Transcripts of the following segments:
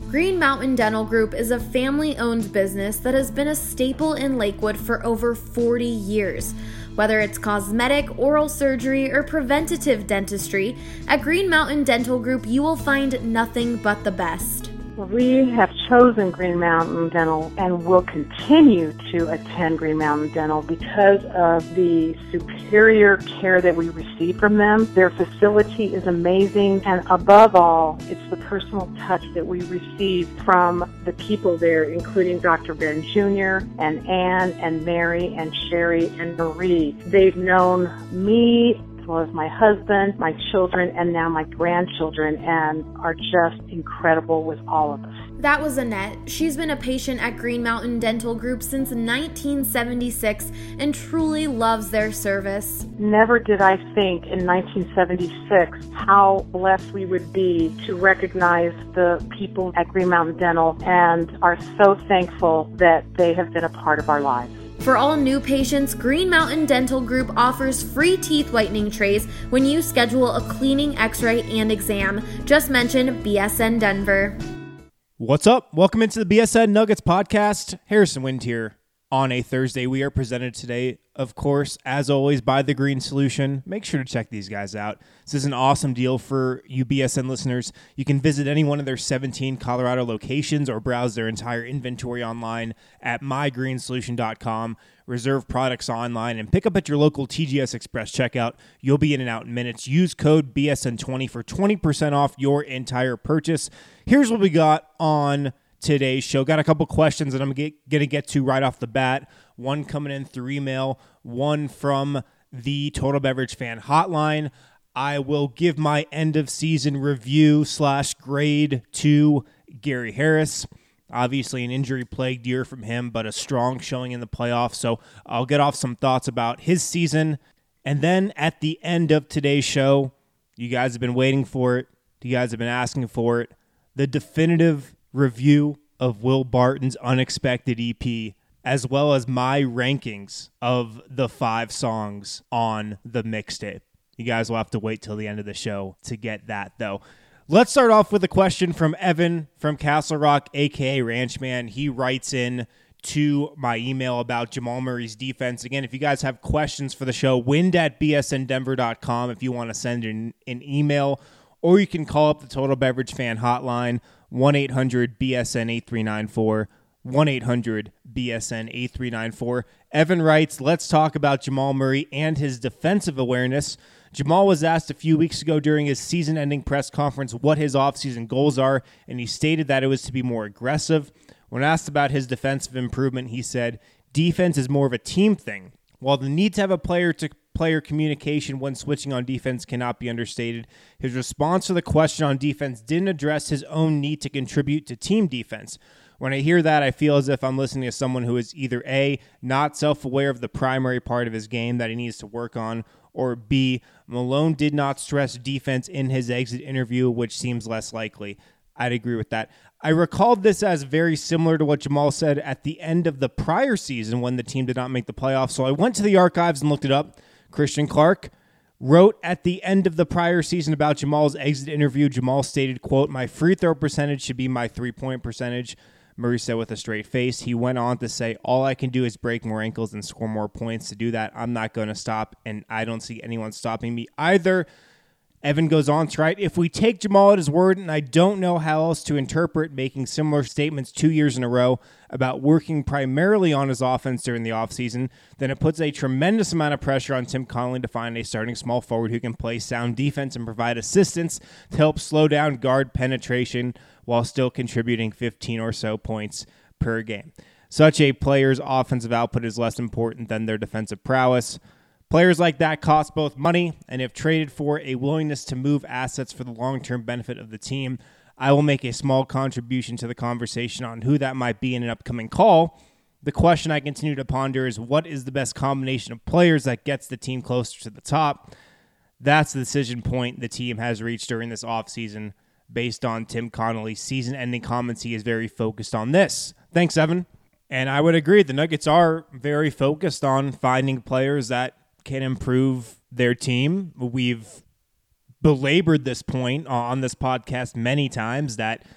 Green Mountain Dental Group is a family-owned business that has been a staple in Lakewood for over 40 years. Whether it's cosmetic, oral surgery, or preventative dentistry, at Green Mountain Dental Group you will find nothing but the best. We have chosen Green Mountain Dental and will continue to attend Green Mountain Dental because of the superior care that we receive from them. Their facility is amazing, and above all, it's the personal touch that we receive from the people there, including Dr. Ben Jr. and Ann and Mary and Sherry and Marie. They've known me as well as my husband, my children, and now my grandchildren, and are just incredible with all of us. That was Annette. She's been a patient at Green Mountain Dental Group since 1976 and truly loves their service. Never did I think in 1976 how blessed we would be to recognize the people at Green Mountain Dental, and are so thankful that they have been a part of our lives. For all new patients, Green Mountain Dental Group offers free teeth whitening trays when you schedule a cleaning, x-ray, and exam. Just mention BSN Denver. What's up? Welcome into the BSN Nuggets podcast. Harrison Wind here. On a Thursday, we are presented today, of course, as always, by The Green Solution. Make sure to check these guys out. This is an awesome deal for you BSN listeners. You can visit any one of their 17 Colorado locations or browse their entire inventory online at mygreensolution.com. Reserve products online and pick up at your local TGS Express checkout. You'll be in and out in minutes. Use code BSN20 for 20% off your entire purchase. Here's what we got on today's show. Got a couple questions that I'm going to get to right off the bat. One coming in through email, one from the Total Beverage Fan Hotline. I will give my end of season review / grade to Gary Harris. Obviously an injury-plagued year from him, but a strong showing in the playoffs. So I'll get off some thoughts about his season. And then at the end of today's show, you guys have been waiting for it. You guys have been asking for it. The definitive review of Will Barton's Unexpected EP, as well as my rankings of the 5 songs on the mixtape. You guys will have to wait till the end of the show to get that, though. Let's start off with a question from Evan from Castle Rock, a.k.a. Ranchman. He writes in to my email about Jamal Murray's defense. Again, if you guys have questions for the show, wind@bsndenver.com if you want to send an email, or you can call up the Total Beverage Fan Hotline, 1-800-BSN-8394, 1-800-BSN-8394. Evan writes, let's talk about Jamal Murray and his defensive awareness. Jamal was asked a few weeks ago during his season-ending press conference what his offseason goals are, and he stated that it was to be more aggressive. When asked about his defensive improvement, he said, defense is more of a team thing. While the need to have a player-to-player communication when switching on defense cannot be understated, his response to the question on defense didn't address his own need to contribute to team defense. When I hear that, I feel as if I'm listening to someone who is either A, not self-aware of the primary part of his game that he needs to work on, or B, Malone did not stress defense in his exit interview, which seems less likely. I'd agree with that. I recalled this as very similar to what Jamal said at the end of the prior season when the team did not make the playoffs, so I went to the archives and looked it up. Christian Clark wrote at the end of the prior season about Jamal's exit interview. Jamal stated, quote, my free throw percentage should be my three-point percentage. Murray said with a straight face. He went on to say, all I can do is break more ankles and score more points. To do that, I'm not going to stop, and I don't see anyone stopping me either. Evan goes on to write, if we take Jamal at his word, and I don't know how else to interpret making similar statements 2 years in a row about working primarily on his offense during the offseason, then it puts a tremendous amount of pressure on Tim Connelly to find a starting small forward who can play sound defense and provide assistance to help slow down guard penetration while still contributing 15 or so points per game. Such a player's offensive output is less important than their defensive prowess. Players like that cost both money, and if traded for, a willingness to move assets for the long-term benefit of the team. I will make a small contribution to the conversation on who that might be in an upcoming call. The question I continue to ponder is, what is the best combination of players that gets the team closer to the top? That's the decision point the team has reached during this offseason. Based on Tim Connelly's season-ending comments, he is very focused on this. Thanks, Evan. And I would agree, the Nuggets are very focused on finding players that can improve their team. We've belabored this point on this podcast many times that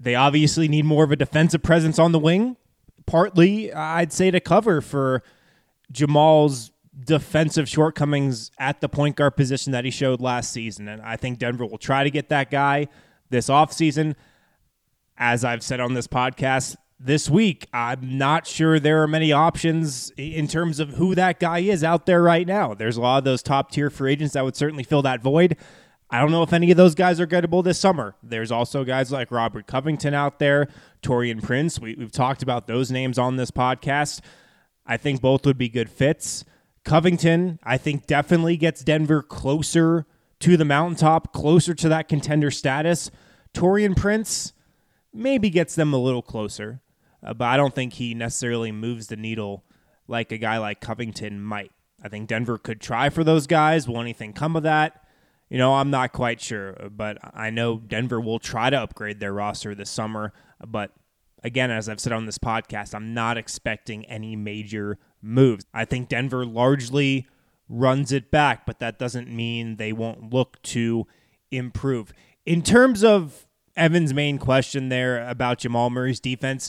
They obviously need more of a defensive presence on the wing, partly, I'd say, to cover for Jamal's defensive shortcomings at the point guard position that he showed last season. And I think Denver will try to get that guy this offseason. As I've said on this podcast this week, I'm not sure there are many options in terms of who that guy is out there right now. There's a lot of those top-tier free agents that would certainly fill that void. I don't know if any of those guys are gettable this summer. There's also guys like Robert Covington out there, Taurean Prince. We've talked about those names on this podcast. I think both would be good fits. Covington, I think, definitely gets Denver closer to the mountaintop, closer to that contender status. Taurean Prince maybe gets them a little closer, but I don't think he necessarily moves the needle like a guy like Covington might. I think Denver could try for those guys. Will anything come of that? I'm not quite sure, but I know Denver will try to upgrade their roster this summer. But again, as I've said on this podcast, I'm not expecting any major moves. I think Denver largely runs it back, but that doesn't mean they won't look to improve. In terms of Evan's main question there about Jamal Murray's defense,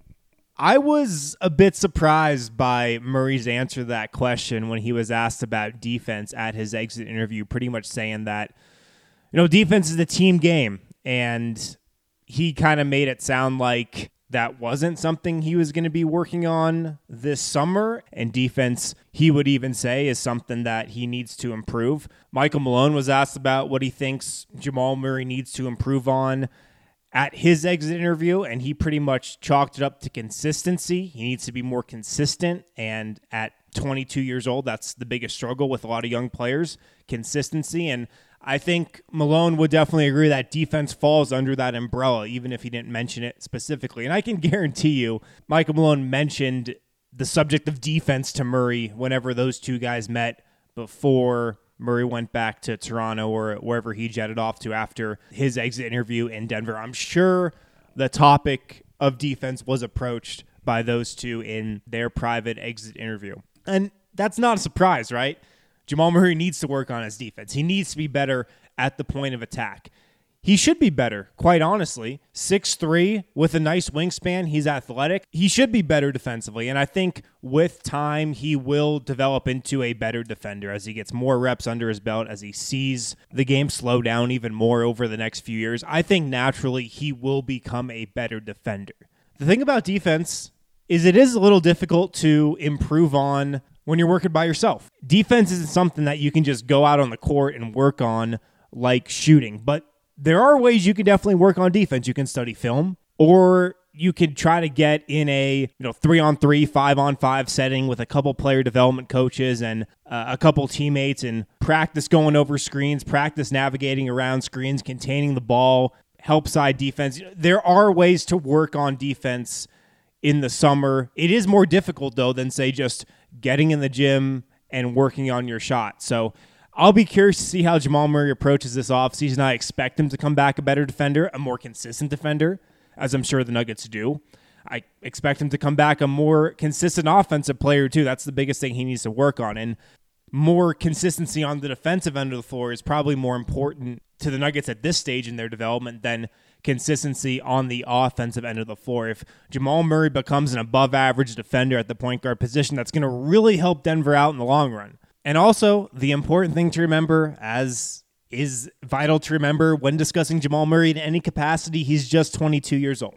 I was a bit surprised by Murray's answer to that question when he was asked about defense at his exit interview, pretty much saying that, defense is a team game. And he kind of made it sound like that wasn't something he was going to be working on this summer. And defense, he would even say, is something that he needs to improve. Michael Malone was asked about what he thinks Jamal Murray needs to improve on at his exit interview, and he pretty much chalked it up to consistency. He needs to be more consistent, and at 22 years old, that's the biggest struggle with a lot of young players, consistency. And I think Malone would definitely agree that defense falls under that umbrella, even if he didn't mention it specifically. And I can guarantee you, Michael Malone mentioned the subject of defense to Murray whenever those two guys met before Murray went back to Toronto or wherever he jetted off to after his exit interview in Denver. I'm sure the topic of defense was approached by those two in their private exit interview. And that's not a surprise, right? Jamal Murray needs to work on his defense. He needs to be better at the point of attack. He should be better, quite honestly. 6'3", with a nice wingspan. He's athletic. He should be better defensively. And I think with time, he will develop into a better defender as he gets more reps under his belt, as he sees the game slow down even more over the next few years. I think naturally he will become a better defender. The thing about defense is it is a little difficult to improve on when you're working by yourself. Defense isn't something that you can just go out on the court and work on like shooting, but there are ways you can definitely work on defense. You can study film, or you can try to get in a 3-on-3, 5-on-5 setting with a couple player development coaches and a couple teammates and practice going over screens, practice navigating around screens, containing the ball, help side defense. There are ways to work on defense in the summer. It is more difficult, though, than, say, just getting in the gym and working on your shot. So I'll be curious to see how Jamal Murray approaches this offseason. I expect him to come back a better defender, a more consistent defender, as I'm sure the Nuggets do. I expect him to come back a more consistent offensive player, too. That's the biggest thing he needs to work on. And more consistency on the defensive end of the floor is probably more important to the Nuggets at this stage in their development than consistency on the offensive end of the floor. If Jamal Murray becomes an above-average defender at the point guard position, that's going to really help Denver out in the long run. And also, the important thing to remember, as is vital to remember when discussing Jamal Murray in any capacity, he's just 22 years old.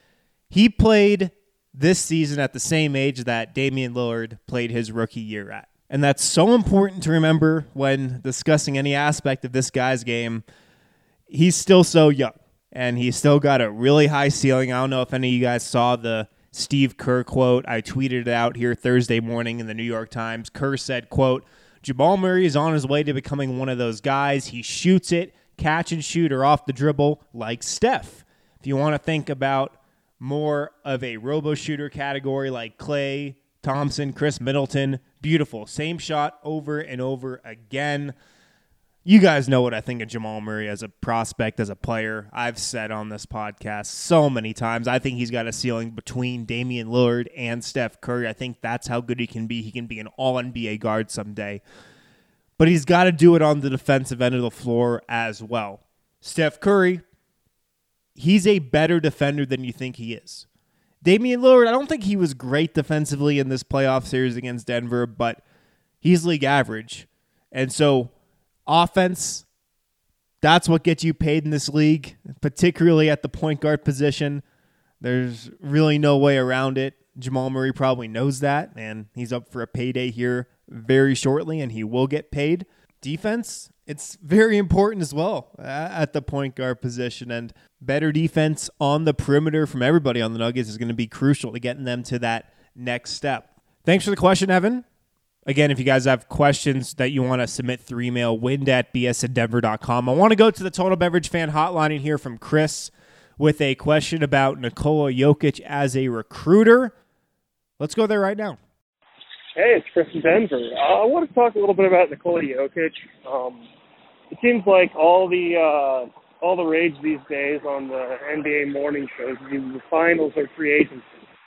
He played this season at the same age that Damian Lillard played his rookie year at. And that's so important to remember when discussing any aspect of this guy's game. He's still so young, and he's still got a really high ceiling. I don't know if any of you guys saw the Steve Kerr quote. I tweeted it out here Thursday morning in the New York Times. Kerr said, quote, "Jamal Murray is on his way to becoming one of those guys. He shoots it, catch and shoot, or off the dribble like Steph." If you want to think about more of a robo-shooter category like Klay Thompson, Chris Middleton, beautiful. Same shot over and over again. You guys know what I think of Jamal Murray as a prospect, as a player. I've said on this podcast so many times, I think he's got a ceiling between Damian Lillard and Steph Curry. I think that's how good he can be. He can be an all-NBA guard someday. But he's got to do it on the defensive end of the floor as well. Steph Curry, he's a better defender than you think he is. Damian Lillard, I don't think he was great defensively in this playoff series against Denver, but he's league average. And so offense, that's what gets you paid in this league, particularly at the point guard position. There's really no way around it. Jamal Murray probably knows that, and he's up for a payday here very shortly, and he will get paid. Defense, it's very important as well at the point guard position, and better defense on the perimeter from everybody on the Nuggets is going to be crucial to getting them to that next step. Thanks for the question, Evan. Again, if you guys have questions that you want to submit through email, wind@bsindenver.com. I want to go to the Total Beverage Fan Hotline in here from Chris with a question about Nikola Jokic as a recruiter. Let's go there right now. Hey, it's Chris in Denver. I want to talk a little bit about Nikola Jokic. It seems like all the rage these days on the NBA morning shows is either the finals or free agency.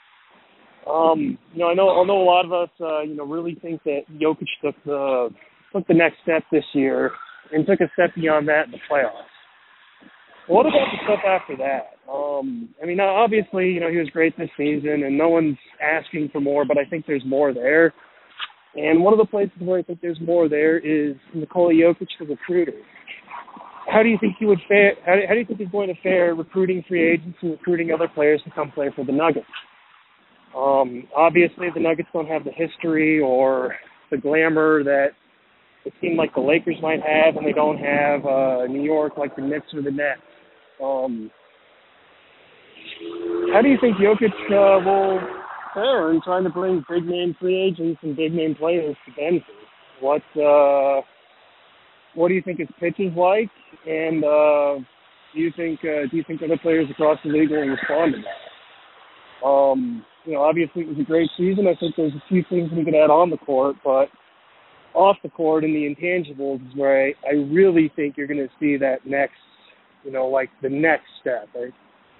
I know a lot of us, really think that Jokic took the next step this year and took a step beyond that in the playoffs. What about the stuff after that? Obviously, he was great this season, and no one's asking for more, but I think there's more there. And one of the places where I think there's more there is Nikola Jokic, the recruiter. How do you think he would fare? How do you think he's going to fare recruiting free agents and recruiting other players to come play for the Nuggets? Obviously, the Nuggets don't have the history or the glamour that it seemed like the Lakers might have, and they don't have New York like the Knicks or the Nets. How do you think Jokic will fare in trying to bring big-name free agents and big-name players to Denver? What do you think his pitch is like, and do you think other players across the league will respond to that? Obviously it was a great season. I think there's a few things we could add on the court, but off the court and the intangibles is where I really think you're going to see that next, the next step, right,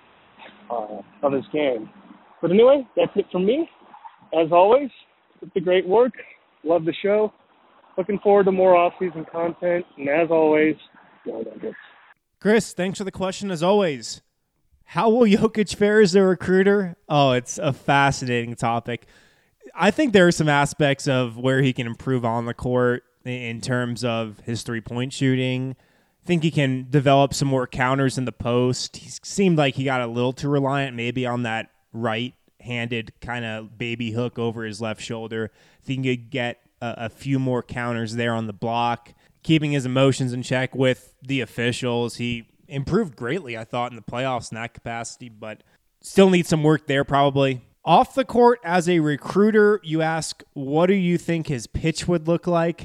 of his game. But anyway, that's it from me. As always, it's a great work. Love the show. Looking forward to more off-season content. And as always, go Nuggets. Chris, thanks for the question as always. How will Jokic fare as a recruiter? Oh, it's a fascinating topic. I think there are some aspects of where he can improve on the court in terms of his three-point shooting. I think he can develop some more counters in the post. He seemed like he got a little too reliant maybe on that right-handed kind of baby hook over his left shoulder. I think he could get a few more counters there on the block, keeping his emotions in check with the officials. He improved greatly, I thought, in the playoffs in that capacity, but still needs some work there probably. Off the court, as a recruiter, you ask, what do you think his pitch would look like?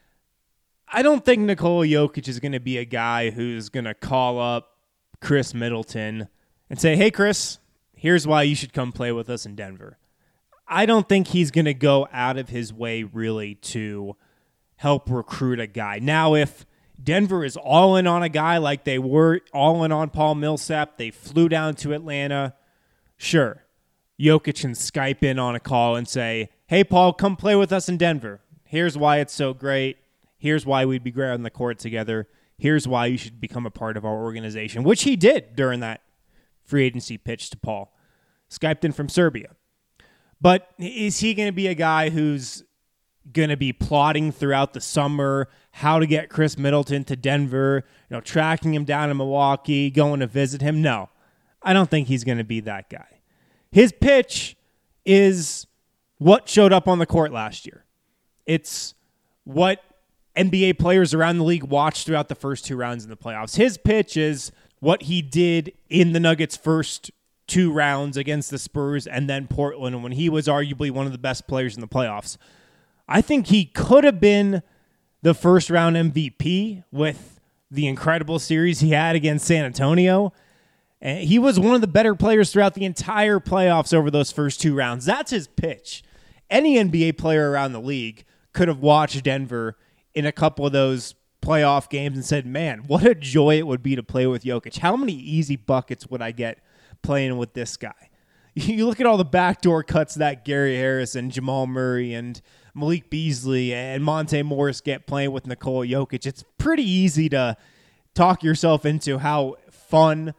I don't think Nikola Jokic is going to be a guy who's going to call up Chris Middleton and say, hey, Chris, here's why you should come play with us in Denver. I don't think he's going to go out of his way really to help recruit a guy. Now, if Denver is all in on a guy like they were all in on Paul Millsap, they flew down to Atlanta, sure, Jokic can Skype in on a call and say, hey, Paul, come play with us in Denver. Here's why it's so great. Here's why we'd be great on the court together. Here's why you should become a part of our organization, which he did during that free agency pitch to Paul. Skyped in from Serbia. But is he going to be a guy who's going to be plotting throughout the summer how to get Chris Middleton to Denver, tracking him down in Milwaukee, going to visit him? No, I don't think he's going to be that guy. His pitch is what showed up on the court last year. It's what NBA players around the league watched throughout the first two rounds in the playoffs. His pitch is what he did in the Nuggets' first two rounds against the Spurs and then Portland when he was arguably one of the best players in the playoffs. I think he could have been the first round MVP with the incredible series he had against San Antonio. And he was one of the better players throughout the entire playoffs over those first two rounds. That's his pitch. Any NBA player around the league could have watched Denver in a couple of those playoff games and said, man, what a joy it would be to play with Jokic. How many easy buckets would I get playing with this guy? You look at all the backdoor cuts that Gary Harris and Jamal Murray and Malik Beasley and Monte Morris get playing with Nikola Jokic. It's pretty easy to talk yourself into how fun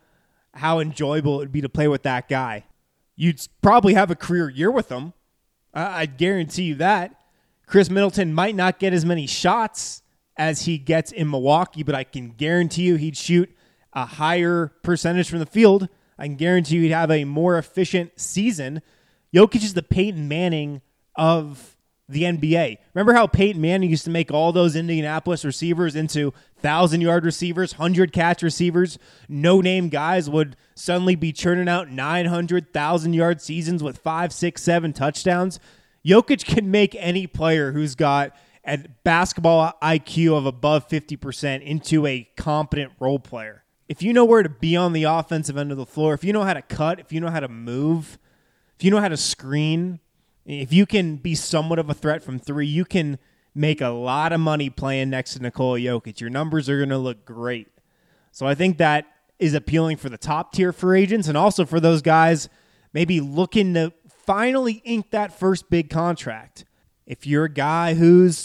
how enjoyable it would be to play with that guy. You'd probably have a career year with him. I guarantee you that. Chris Middleton might not get as many shots as he gets in Milwaukee, but I can guarantee you he'd shoot a higher percentage from the field. I can guarantee you he'd have a more efficient season. Jokic is the Peyton Manning of the NBA. Remember how Peyton Manning used to make all those Indianapolis receivers into 1,000-yard receivers, 100-catch receivers? No-name guys would suddenly be churning out 900, 1,000-yard seasons with 5, 6, 7 touchdowns. Jokic can make any player who's got a basketball IQ of above 50% into a competent role player. If you know where to be on the offensive end of the floor, if you know how to cut, if you know how to move, if you know how to screen, if you can be somewhat of a threat from three, you can make a lot of money playing next to Nikola Jokic. Your numbers are going to look great. So I think that is appealing for the top tier free agents and also for those guys maybe looking to finally ink that first big contract. If you're a guy who's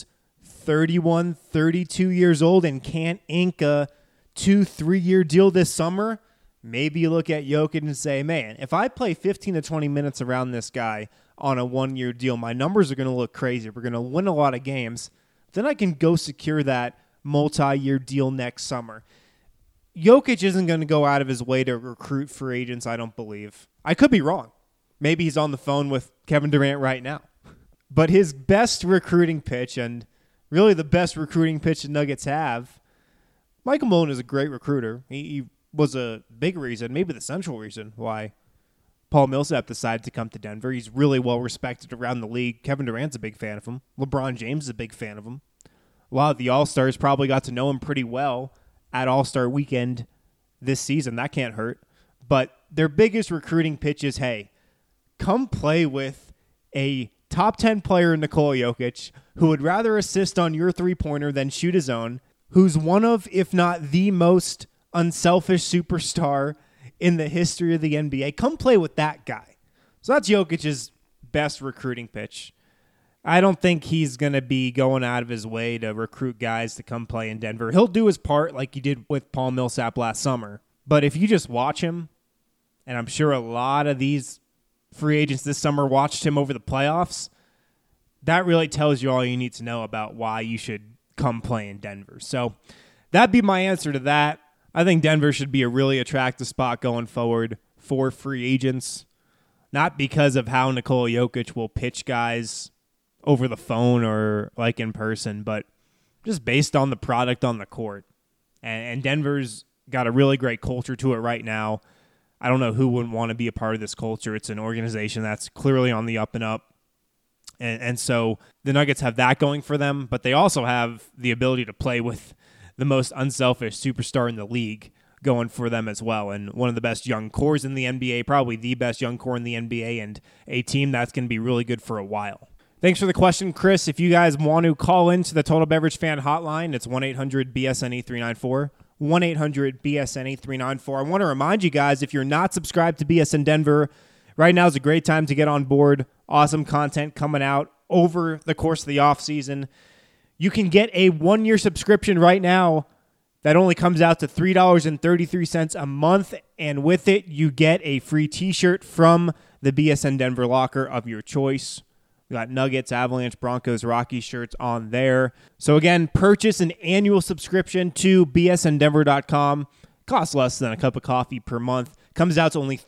31, 32 years old and can't ink a 2-3 year deal this summer, maybe you look at Jokic and say, man, if I play 15 to 20 minutes around this guy on a 1-year deal, my numbers are going to look crazy. We're going to win a lot of games. Then I can go secure that multi-year deal next summer. Jokic isn't going to go out of his way to recruit free agents, I don't believe. I could be wrong. Maybe he's on the phone with Kevin Durant right now. But his best recruiting pitch, and really the best recruiting pitch the Nuggets have, Michael Malone is a great recruiter. He was a big reason, maybe the central reason, why Paul Millsap decided to come to Denver. He's really well respected around the league. Kevin Durant's a big fan of him. LeBron James is a big fan of him. A lot of the All-Stars probably got to know him pretty well at All-Star Weekend this season. That can't hurt. But their biggest recruiting pitch is, hey, come play with a top 10 player in Nikola Jokic who would rather assist on your three-pointer than shoot his own, who's one of, if not the most unselfish superstar in the history of the NBA. Come play with that guy. So that's Jokic's best recruiting pitch. I don't think he's going to be going out of his way to recruit guys to come play in Denver. He'll do his part like he did with Paul Millsap last summer. But if you just watch him, and I'm sure a lot of these free agents this summer watched him over the playoffs, that really tells you all you need to know about why you should come play in Denver. So that'd be my answer to that. I think Denver should be a really attractive spot going forward for free agents, not because of how Nikola Jokic will pitch guys over the phone or like in person, but just based on the product on the court. And Denver's got a really great culture to it right now. I don't know who wouldn't want to be a part of this culture. It's an organization that's clearly on the up and up. And so the Nuggets have that going for them, but they also have the ability to play with the most unselfish superstar in the league going for them as well. And one of the best young cores in the NBA, probably the best young core in the NBA, and a team that's going to be really good for a while. Thanks for the question, Chris. If you guys want to call into the Total Beverage Fan Hotline, it's 1-800-BSNE-394. 1-800-BSNE-394. I want to remind you guys, if you're not subscribed to BSN Denver, right now is a great time to get on board. Awesome content coming out over the course of the offseason. You can get a 1-year subscription right now that only comes out to $3.33 a month, and with it, you get a free t-shirt from the BSN Denver locker of your choice. We got Nuggets, Avalanche, Broncos, Rockies shirts on there. So again, purchase an annual subscription to bsndenver.com. Costs less than a cup of coffee per month. Comes out to only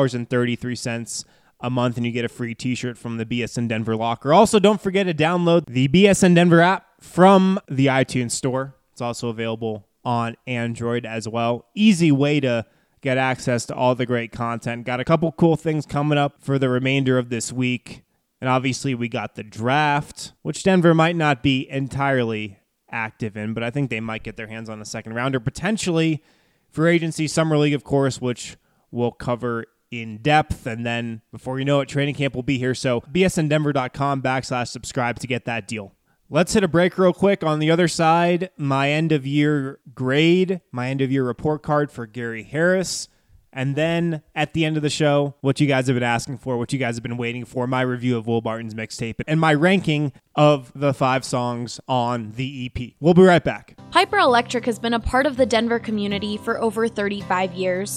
$3.33 a month, and you get a free t-shirt from the BSN Denver locker. Also, don't forget to download the BSN Denver app from the iTunes store. It's also available on Android as well. Easy way to get access to all the great content. Got a couple cool things coming up for the remainder of this week. And obviously, we got the draft, which Denver might not be entirely active in, but I think they might get their hands on a second rounder. Potentially, free agency, summer league, of course, which we'll cover in depth. And then, before you know it, training camp will be here. So, bsndenver.com/subscribe to get that deal. Let's hit a break real quick. On the other side, my end-of-year grade, my end-of-year report card for Gary Harris. And then at the end of the show, what you guys have been asking for, what you guys have been waiting for, my review of Will Barton's mixtape, and my ranking of the 5 songs on the EP. We'll be right back. Piper Electric has been a part of the Denver community for over 35 years.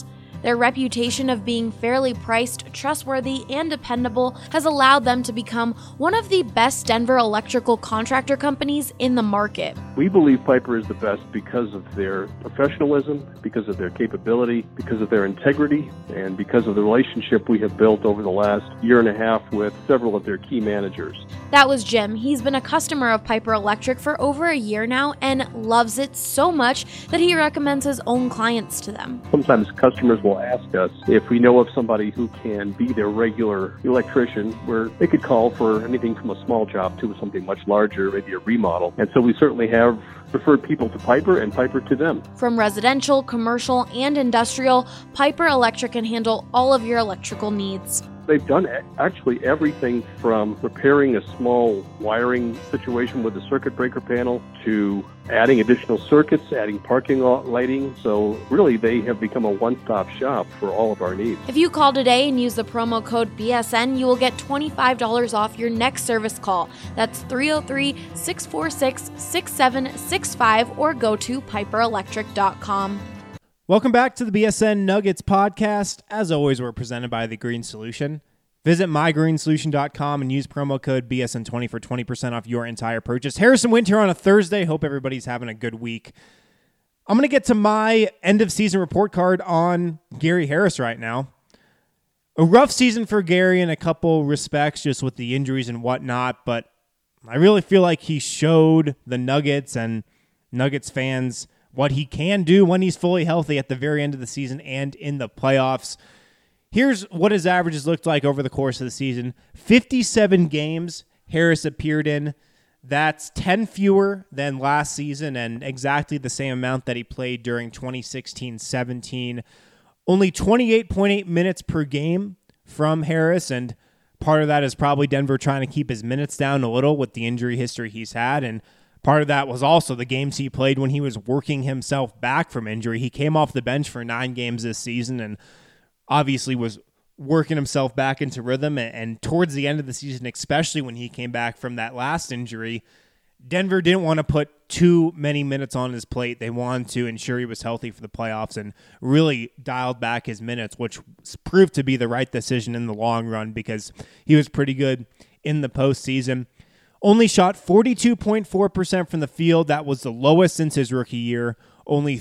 Their reputation of being fairly priced, trustworthy, and dependable has allowed them to become one of the best Denver electrical contractor companies in the market. We believe Piper is the best because of their professionalism, because of their capability, because of their integrity, and because of the relationship we have built over the last year and a half with several of their key managers. That was Jim. He's been a customer of Piper Electric for over a year now and loves it so much that he recommends his own clients to them. Sometimes customers will ask us if we know of somebody who can be their regular electrician, where they could call for anything from a small job to something much larger, maybe a remodel. And so we certainly have referred people to Piper and Piper to them. From residential, commercial, and industrial, Piper Electric can handle all of your electrical needs. They've done actually everything from repairing a small wiring situation with a circuit breaker panel to adding additional circuits, adding parking lot lighting. So really, they have become a one-stop shop for all of our needs. If you call today and use the promo code BSN, you will get $25 off your next service call. That's 303-646-6765 or go to piperelectric.com. Welcome back to the BSN Nuggets podcast. As always, we're presented by The Green Solution. Visit mygreensolution.com and use promo code BSN20 for 20% off your entire purchase. Harrison Wind here on a Thursday. Hope everybody's having a good week. I'm going to get to my end-of-season report card on Gary Harris right now. A rough season for Gary in a couple respects, just with the injuries and whatnot, but I really feel like he showed the Nuggets and Nuggets fans what he can do when he's fully healthy at the very end of the season and in the playoffs. Here's what his averages looked like over the course of the season. 57 games Harris appeared in. That's 10 fewer than last season and exactly the same amount that he played during 2016-17. Only 28.8 minutes per game from Harris, and part of that is probably Denver trying to keep his minutes down a little with the injury history he's had, and part of that was also the games he played when he was working himself back from injury. He came off the bench for 9 games this season and obviously was working himself back into rhythm. And towards the end of the season, especially when he came back from that last injury, Denver didn't want to put too many minutes on his plate. They wanted to ensure he was healthy for the playoffs and really dialed back his minutes, which proved to be the right decision in the long run because he was pretty good in the postseason. Only shot 42.4% from the field. That was the lowest since his rookie year. Only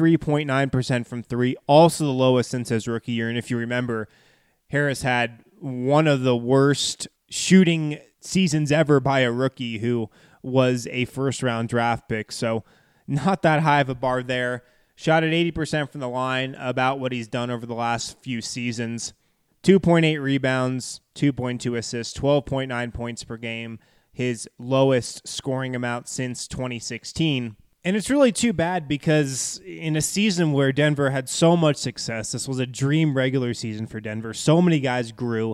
33.9% from three, also the lowest since his rookie year. And if you remember, Harris had one of the worst shooting seasons ever by a rookie who was a first-round draft pick. So not that high of a bar there. Shot at 80% from the line, about what he's done over the last few seasons. 2.8 rebounds, 2.2 assists, 12.9 points per game. His lowest scoring amount since 2016. And it's really too bad because in a season where Denver had so much success, this was a dream regular season for Denver, so many guys grew,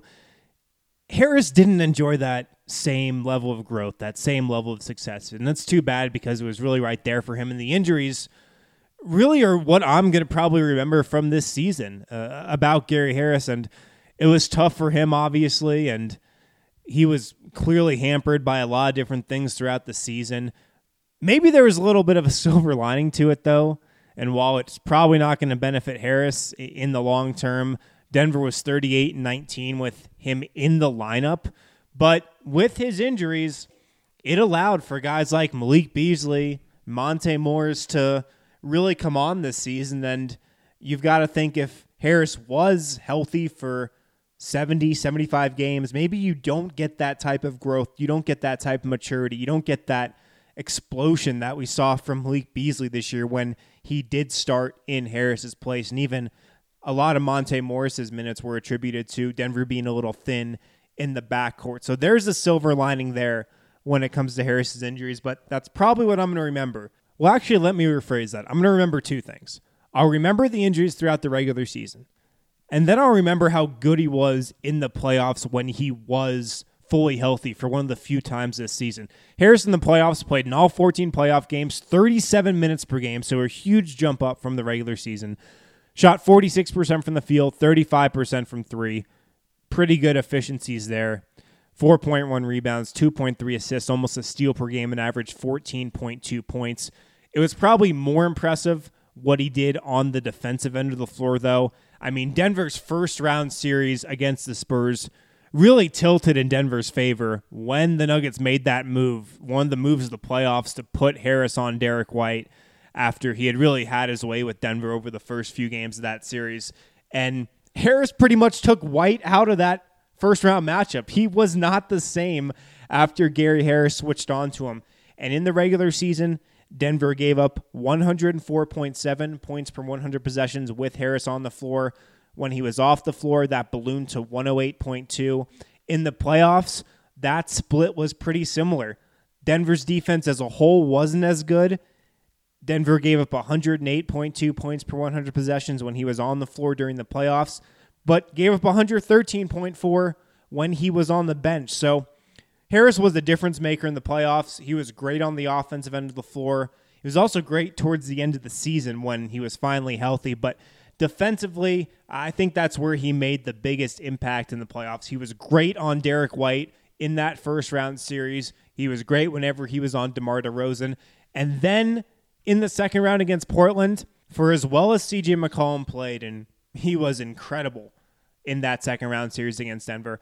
Harris didn't enjoy that same level of growth, that same level of success. And that's too bad because it was really right there for him. And the injuries really are what I'm going to probably remember from this season about Gary Harris. And it was tough for him, obviously, and he was clearly hampered by a lot of different things throughout the season. Maybe there was a little bit of a silver lining to it, though. And while it's probably not going to benefit Harris in the long term, Denver was 38-19 with him in the lineup. But with his injuries, it allowed for guys like Malik Beasley, Monte Morris to really come on this season. And you've got to think if Harris was healthy for 70, 75 games, maybe you don't get that type of growth. You don't get that type of maturity. You don't get that explosion that we saw from Malik Beasley this year when he did start in Harris's place. And even a lot of Monte Morris's minutes were attributed to Denver being a little thin in the backcourt. So there's a silver lining there when it comes to Harris's injuries, but that's probably what I'm going to remember. Well, actually, let me rephrase that. I'm going to remember two things. I'll remember the injuries throughout the regular season. And then I'll remember how good he was in the playoffs when he was fully healthy for one of the few times this season. Harris in the playoffs played in all 14 playoff games, 37 minutes per game, so a huge jump up from the regular season. Shot 46% from the field, 35% from three. Pretty good efficiencies there. 4.1 rebounds, 2.3 assists, almost a steal per game, and averaged 14.2 points. It was probably more impressive what he did on the defensive end of the floor, though. I mean, Denver's first round series against the Spurs really tilted in Denver's favor when the Nuggets made that move, one of the moves of the playoffs, to put Harris on Derek White after he had really had his way with Denver over the first few games of that series. And Harris pretty much took White out of that first round matchup. He was not the same after Gary Harris switched on to him. And in the regular season, Denver gave up 104.7 points per 100 possessions with Harris on the floor. When he was off the floor, that ballooned to 108.2. In the playoffs, that split was pretty similar. Denver's defense as a whole wasn't as good. Denver gave up 108.2 points per 100 possessions when he was on the floor during the playoffs, but gave up 113.4 when he was on the bench. So Harris was the difference maker in the playoffs. He was great on the offensive end of the floor. He was also great towards the end of the season when he was finally healthy, but defensively, I think that's where he made the biggest impact in the playoffs. He was great on Derek White in that first round series. He was great whenever he was on DeMar DeRozan. And then in the second round against Portland, for as well as CJ McCollum played, and he was incredible in that second round series against Denver,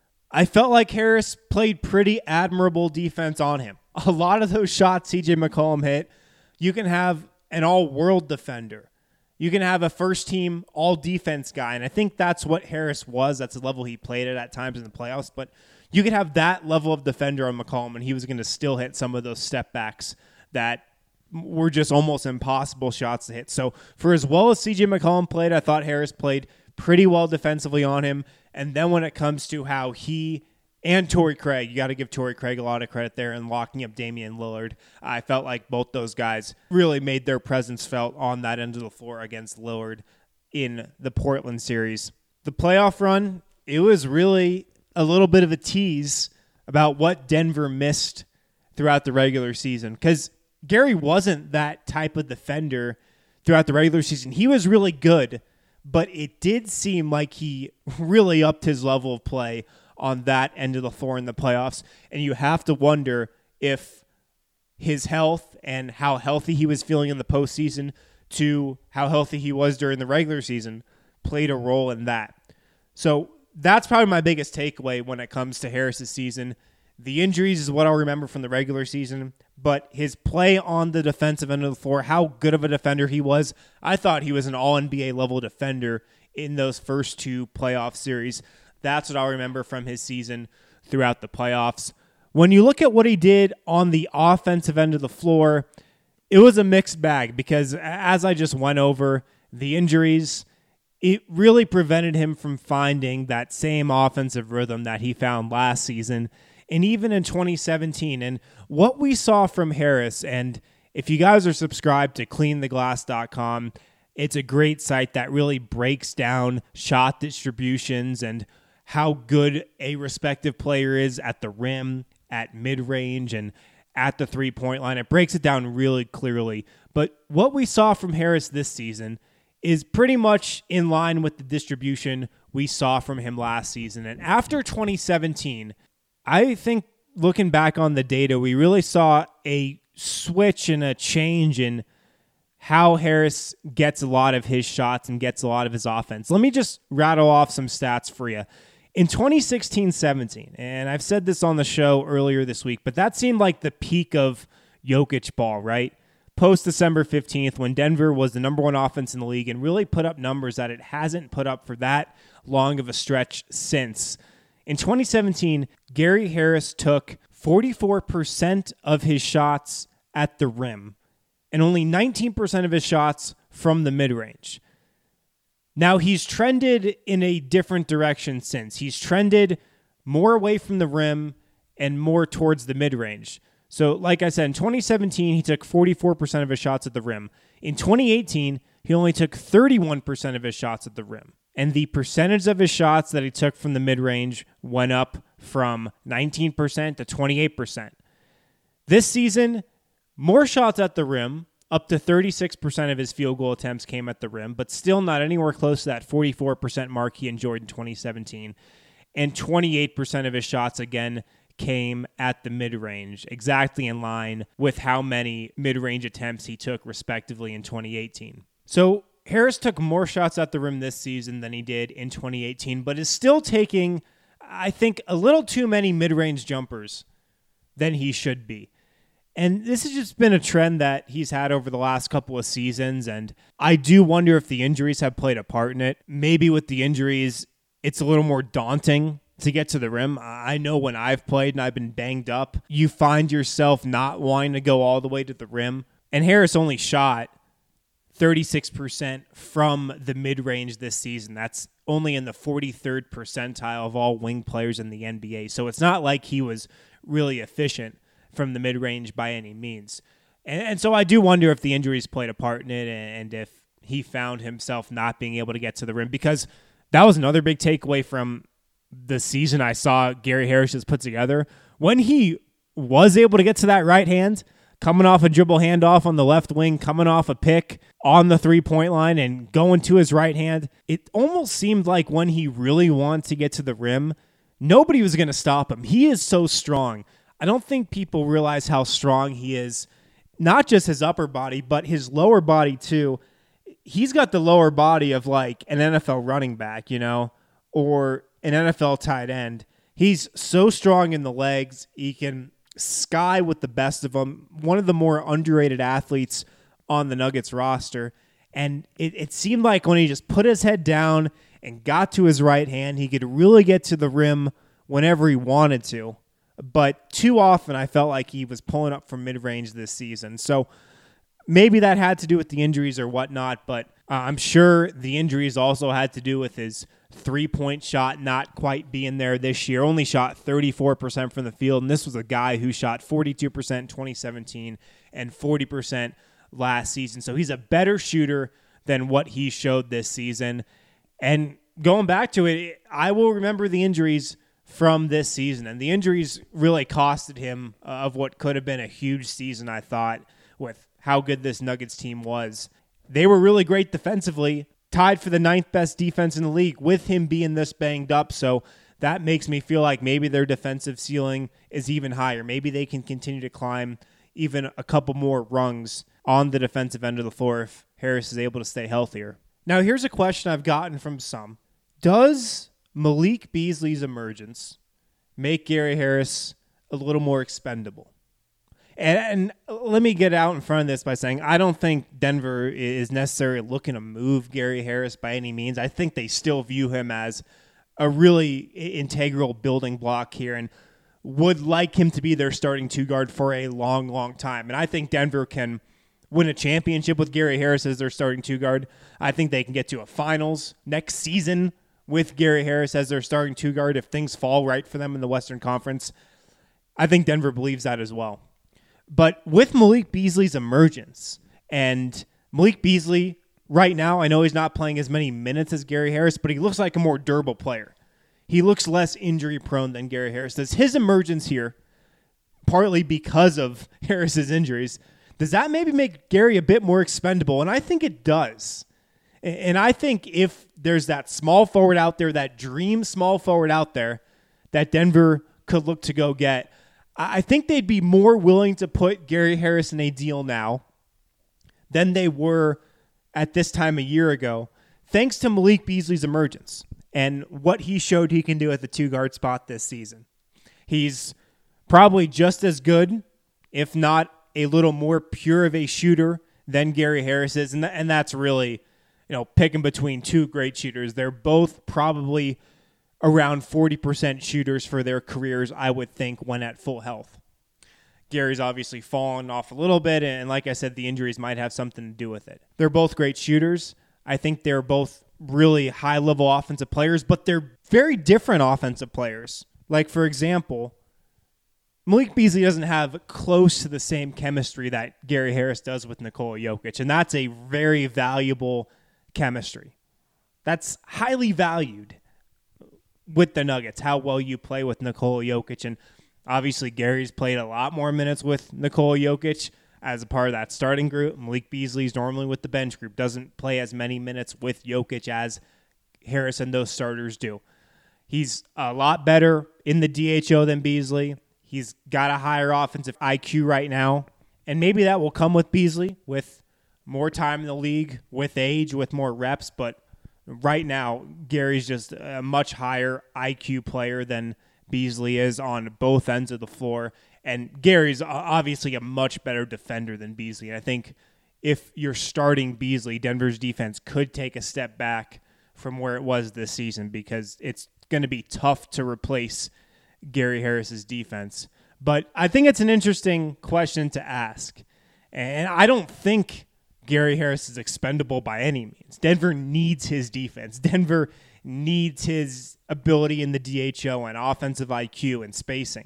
I felt like Harris played pretty admirable defense on him. A lot of those shots CJ McCollum hit, you can have an all-world defender. You can have a first-team all-defense guy, and I think that's what Harris was. That's the level he played at times in the playoffs. But you could have that level of defender on McCollum, and he was going to still hit some of those step-backs that were just almost impossible shots to hit. So for as well as CJ McCollum played, I thought Harris played pretty well defensively on him. And then when it comes to how he and Torrey Craig, you got to give Torrey Craig a lot of credit there in locking up Damian Lillard. I felt like both those guys really made their presence felt on that end of the floor against Lillard in the Portland series. The playoff run, it was really a little bit of a tease about what Denver missed throughout the regular season, because Gary wasn't that type of defender throughout the regular season. He was really good, but it did seem like he really upped his level of play on that end of the floor in the playoffs. And you have to wonder if his health and how healthy he was feeling in the postseason to how healthy he was during the regular season played a role in that. So that's probably my biggest takeaway when it comes to Harris's season. The injuries is what I'll remember from the regular season, but his play on the defensive end of the floor, how good of a defender he was. I thought he was an all-NBA level defender in those first two playoff series. That's what I'll remember from his season throughout the playoffs. When you look at what he did on the offensive end of the floor, it was a mixed bag because, as I just went over, the injuries, it really prevented him from finding that same offensive rhythm that he found last season and even in 2017. And what we saw from Harris, and if you guys are subscribed to cleantheglass.com, it's a great site that really breaks down shot distributions and how good a respective player is at the rim, at mid-range, and at the three-point line. It breaks it down really clearly. But what we saw from Harris this season is pretty much in line with the distribution we saw from him last season. And after 2017, I think looking back on the data, we really saw a switch and a change in how Harris gets a lot of his shots and gets a lot of his offense. Let me just rattle off some stats for you. In 2016-17, and I've said this on the show earlier this week, but that seemed like the peak of Jokic ball, right? Post December 15th, when Denver was the number one offense in the league and really put up numbers that it hasn't put up for that long of a stretch since. In 2017, Gary Harris took 44% of his shots at the rim and only 19% of his shots from the mid-range. Now, he's trended in a different direction since. He's trended more away from the rim and more towards the mid-range. So, like I said, in 2017, he took 44% of his shots at the rim. In 2018, he only took 31% of his shots at the rim. And the percentage of his shots that he took from the mid-range went up from 19% to 28%. This season, more shots at the rim, up to 36% of his field goal attempts came at the rim, but still not anywhere close to that 44% mark he enjoyed in 2017. And 28% of his shots, again, came at the mid-range, exactly in line with how many mid-range attempts he took, respectively, in 2018. So Harris took more shots at the rim this season than he did in 2018, but is still taking, I think, a little too many mid-range jumpers than he should be. And this has just been a trend that he's had over the last couple of seasons, and I do wonder if the injuries have played a part in it. Maybe with the injuries, it's a little more daunting to get to the rim. I know when I've played and I've been banged up, you find yourself not wanting to go all the way to the rim. And Harris only shot 36% from the mid-range this season. That's only in the 43rd percentile of all wing players in the NBA. So it's not like he was really efficient from the mid-range by any means. And so I do wonder if the injuries played a part in it and if he found himself not being able to get to the rim, because that was another big takeaway from the season I saw Gary Harris just put together. When he was able to get to that right hand, coming off a dribble handoff on the left wing, coming off a pick on the three-point line and going to his right hand, it almost seemed like when he really wanted to get to the rim, nobody was going to stop him. He is so strong. I don't think people realize how strong he is, not just his upper body, but his lower body too. He's got the lower body of like an NFL running back, or an NFL tight end. He's so strong in the legs. He can sky with the best of them. One of the more underrated athletes on the Nuggets roster. And it seemed like when he just put his head down and got to his right hand, he could really get to the rim whenever he wanted to. But too often I felt like he was pulling up from mid-range this season. So maybe that had to do with the injuries or whatnot, but I'm sure the injuries also had to do with his three-point shot not quite being there this year. Only shot 34% from the field, and this was a guy who shot 42% in 2017 and 40% last season. So he's a better shooter than what he showed this season. And going back to it, I will remember the injuries from this season, and the injuries really costed him of what could have been a huge season, I thought, with how good this Nuggets team was. They were really great defensively, tied for the 9th best defense in the league with him being this banged up. So that makes me feel like maybe their defensive ceiling is even higher. Maybe they can continue to climb even a couple more rungs on the defensive end of the floor if Harris is able to stay healthier. Now, here's a question I've gotten from some. Does Malik Beasley's emergence make Gary Harris a little more expendable? And let me get out in front of this by saying I don't think Denver is necessarily looking to move Gary Harris by any means. I think they still view him as a really integral building block here and would like him to be their starting two guard for a long, long time. And I think Denver can win a championship with Gary Harris as their starting two guard. I think they can get to a finals next season with Gary Harris as their starting two guard if things fall right for them in the Western Conference. I think Denver believes that as well. But with Malik Beasley's emergence, and Malik Beasley right now, I know he's not playing as many minutes as Gary Harris, but he looks like a more durable player. He looks less injury prone than Gary Harris does. His emergence here, partly because of Harris's injuries, does that maybe make Gary a bit more expendable? And I think it does. And I think if there's that small forward out there, that dream small forward out there that Denver could look to go get, I think they'd be more willing to put Gary Harris in a deal now than they were at this time a year ago, thanks to Malik Beasley's emergence and what he showed he can do at the two-guard spot this season. He's probably just as good, if not a little more pure of a shooter than Gary Harris is, and that's really, picking between two great shooters. They're both probably around 40% shooters for their careers, I would think, when at full health. Gary's obviously fallen off a little bit, and like I said, the injuries might have something to do with it. They're both great shooters. I think they're both really high-level offensive players, but they're very different offensive players. Like, for example, Malik Beasley doesn't have close to the same chemistry that Gary Harris does with Nikola Jokic, and that's a very valuable chemistry. That's highly valued with the Nuggets, how well you play with Nikola Jokic. And obviously Gary's played a lot more minutes with Nikola Jokic as a part of that starting group. Malik Beasley's normally with the bench group, doesn't play as many minutes with Jokic as Harris and those starters do. He's a lot better in the DHO than Beasley. He's got a higher offensive IQ right now, and maybe that will come with Beasley with more time in the league with age, with more reps, but right now, Gary's just a much higher IQ player than Beasley is on both ends of the floor. And Gary's obviously a much better defender than Beasley. And I think if you're starting Beasley, Denver's defense could take a step back from where it was this season because it's going to be tough to replace Gary Harris's defense. But I think it's an interesting question to ask. And I don't think Gary Harris is expendable by any means. Denver needs his defense. Denver needs his ability in the DHO and offensive IQ and spacing.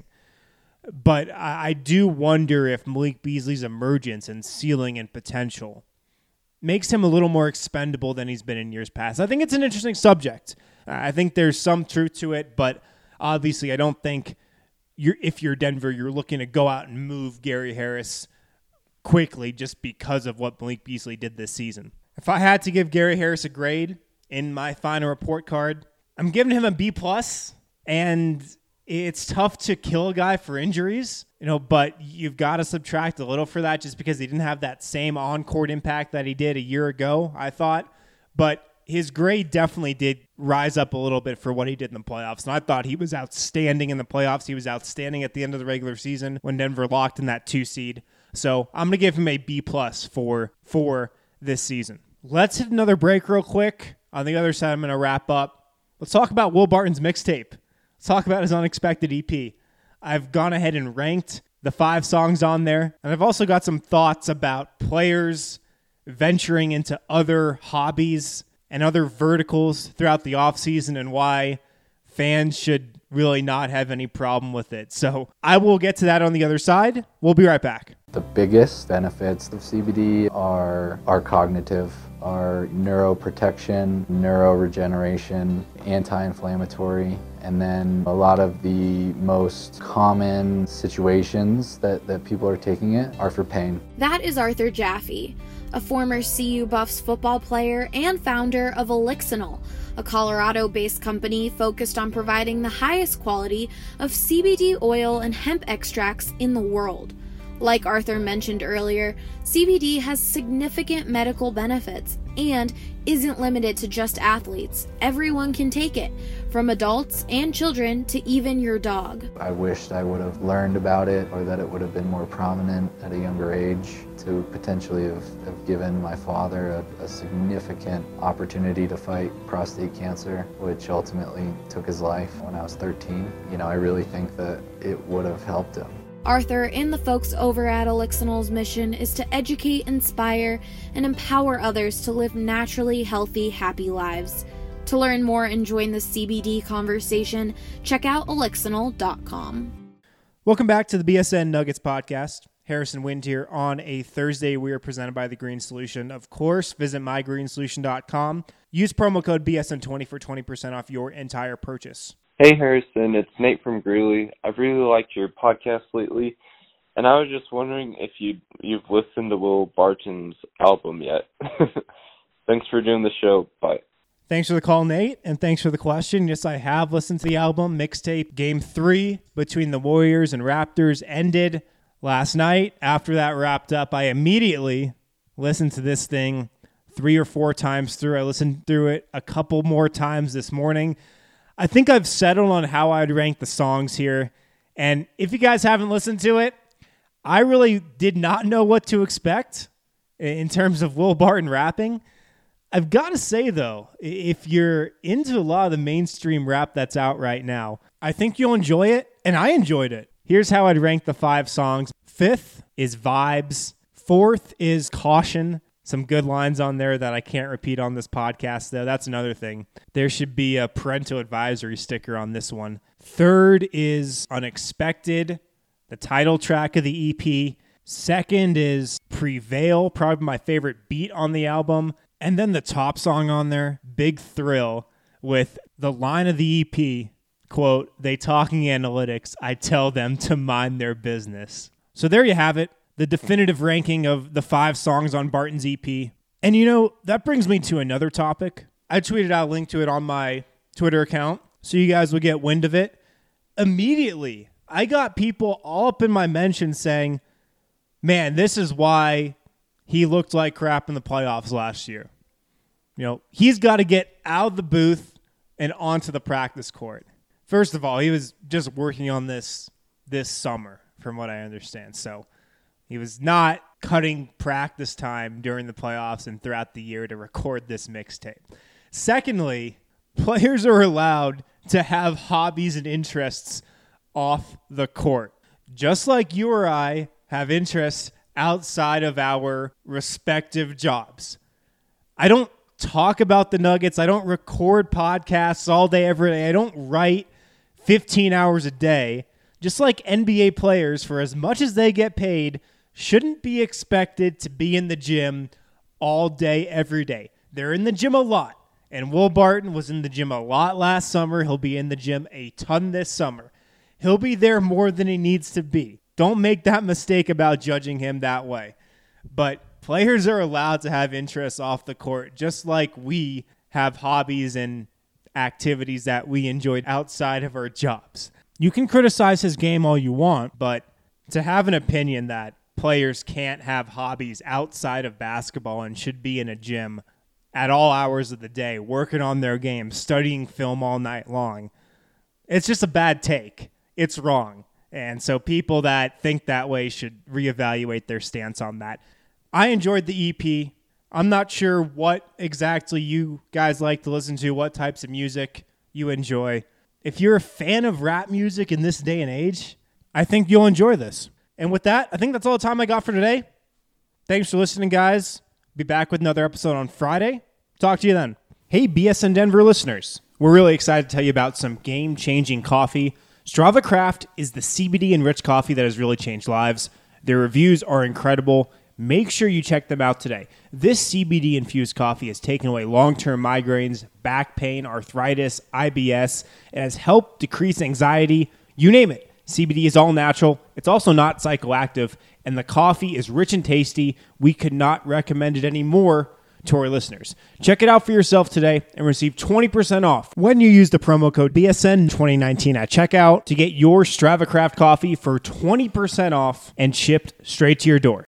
But I do wonder if Malik Beasley's emergence and ceiling and potential makes him a little more expendable than he's been in years past. I think it's an interesting subject. I think there's some truth to it, but obviously I don't think if you're Denver, you're looking to go out and move Gary Harris quickly just because of what Malik Beasley did this season. If I had to give Gary Harris a grade in my final report card, I'm giving him a B+, and it's tough to kill a guy for injuries, but you've got to subtract a little for that just because he didn't have that same on-court impact that he did a year ago, I thought. But his grade definitely did rise up a little bit for what he did in the playoffs. And I thought he was outstanding in the playoffs. He was outstanding at the end of the regular season when Denver locked in that 2 seed. So I'm going to give him a B+ for this season. Let's hit another break real quick. On the other side, I'm going to wrap up. Let's talk about Will Barton's mixtape. Let's talk about his Unexpected EP. I've gone ahead and ranked the 5 songs on there, and I've also got some thoughts about players venturing into other hobbies and other verticals throughout the offseason and why fans should really not have any problem with it. So I will get to that on the other side. We'll be right back. The biggest benefits of CBD are cognitive, are neuroprotection, neuroregeneration, anti-inflammatory, and then a lot of the most common situations that people are taking it are for pain. That is Arthur Jaffe, a former CU Buffs football player and founder of Elixinol, a Colorado-based company focused on providing the highest quality of CBD oil and hemp extracts in the world. Like Arthur mentioned earlier, CBD has significant medical benefits and isn't limited to just athletes. Everyone can take it, from adults and children to even your dog. I wished I would have learned about it, or that it would have been more prominent at a younger age to potentially have given my father a significant opportunity to fight prostate cancer, which ultimately took his life when I was 13. I really think that it would have helped him. Arthur and the folks over at Elixinol's mission is to educate, inspire, and empower others to live naturally healthy, happy lives. To learn more and join the CBD conversation, check out Elixinol.com. Welcome back to the BSN Nuggets podcast. Harrison Wind here on a Thursday. We are presented by The Green Solution. Of course, visit mygreensolution.com. Use promo code BSN20 for 20% off your entire purchase. Hey Harrison, it's Nate from Greeley. I've really liked your podcast lately, and I was just wondering if you've listened to Will Barton's album yet. Thanks for doing the show. Bye. Thanks for the call, Nate, and thanks for the question. Yes, I have listened to the album. Mixtape Game 3 between the Warriors and Raptors ended last night. After that wrapped up, I immediately listened to this thing 3 or 4 times through. I listened through it a couple more times this morning. I think I've settled on how I'd rank the songs here. And if you guys haven't listened to it, I really did not know what to expect in terms of Will Barton rapping. I've got to say, though, if you're into a lot of the mainstream rap that's out right now, I think you'll enjoy it, and I enjoyed it. Here's how I'd rank the 5 songs. 5th is Vibes. 4th is Caution. Some good lines on there that I can't repeat on this podcast, though. That's another thing. There should be a parental advisory sticker on this one. 3rd is Unexpected, the title track of the EP. 2nd is Prevail, probably my favorite beat on the album. And then the top song on there, Big Thrill, with the line of the EP, quote, "They talking analytics, I tell them to mind their business." So there you have it. The definitive ranking of the 5 songs on Barton's EP. And that brings me to another topic. I tweeted out a link to it on my Twitter account so you guys would get wind of it. Immediately, I got people all up in my mentions saying, man, this is why he looked like crap in the playoffs last year. He's got to get out of the booth and onto the practice court. First of all, he was just working on this summer, from what I understand. So he was not cutting practice time during the playoffs and throughout the year to record this mixtape. Secondly, players are allowed to have hobbies and interests off the court, just like you or I have interests outside of our respective jobs. I don't talk about the Nuggets. I don't record podcasts all day, every day. I don't write 15 hours a day. Just like NBA players, for as much as they get paid, shouldn't be expected to be in the gym all day, every day. They're in the gym a lot. And Will Barton was in the gym a lot last summer. He'll be in the gym a ton this summer. He'll be there more than he needs to be. Don't make that mistake about judging him that way. But players are allowed to have interests off the court, just like we have hobbies and activities that we enjoyed outside of our jobs. You can criticize his game all you want, but to have an opinion that players can't have hobbies outside of basketball and should be in a gym at all hours of the day, working on their game, studying film all night long, it's just a bad take. It's wrong. And so people that think that way should reevaluate their stance on that. I enjoyed the EP. I'm not sure what exactly you guys like to listen to, what types of music you enjoy. If you're a fan of rap music in this day and age, I think you'll enjoy this. And with that, I think that's all the time I got for today. Thanks for listening, guys. Be back with another episode on Friday. Talk to you then. Hey, BSN Denver listeners. We're really excited to tell you about some game-changing coffee. Strava Craft is the CBD-enriched coffee that has really changed lives. Their reviews are incredible. Make sure you check them out today. This CBD-infused coffee has taken away long-term migraines, back pain, arthritis, IBS. It has helped decrease anxiety. You name it. CBD is all natural. It's also not psychoactive. And the coffee is rich and tasty. We could not recommend it any more to our listeners. Check it out for yourself today and receive 20% off when you use the promo code BSN2019 at checkout to get your Strava Craft coffee for 20% off and shipped straight to your door.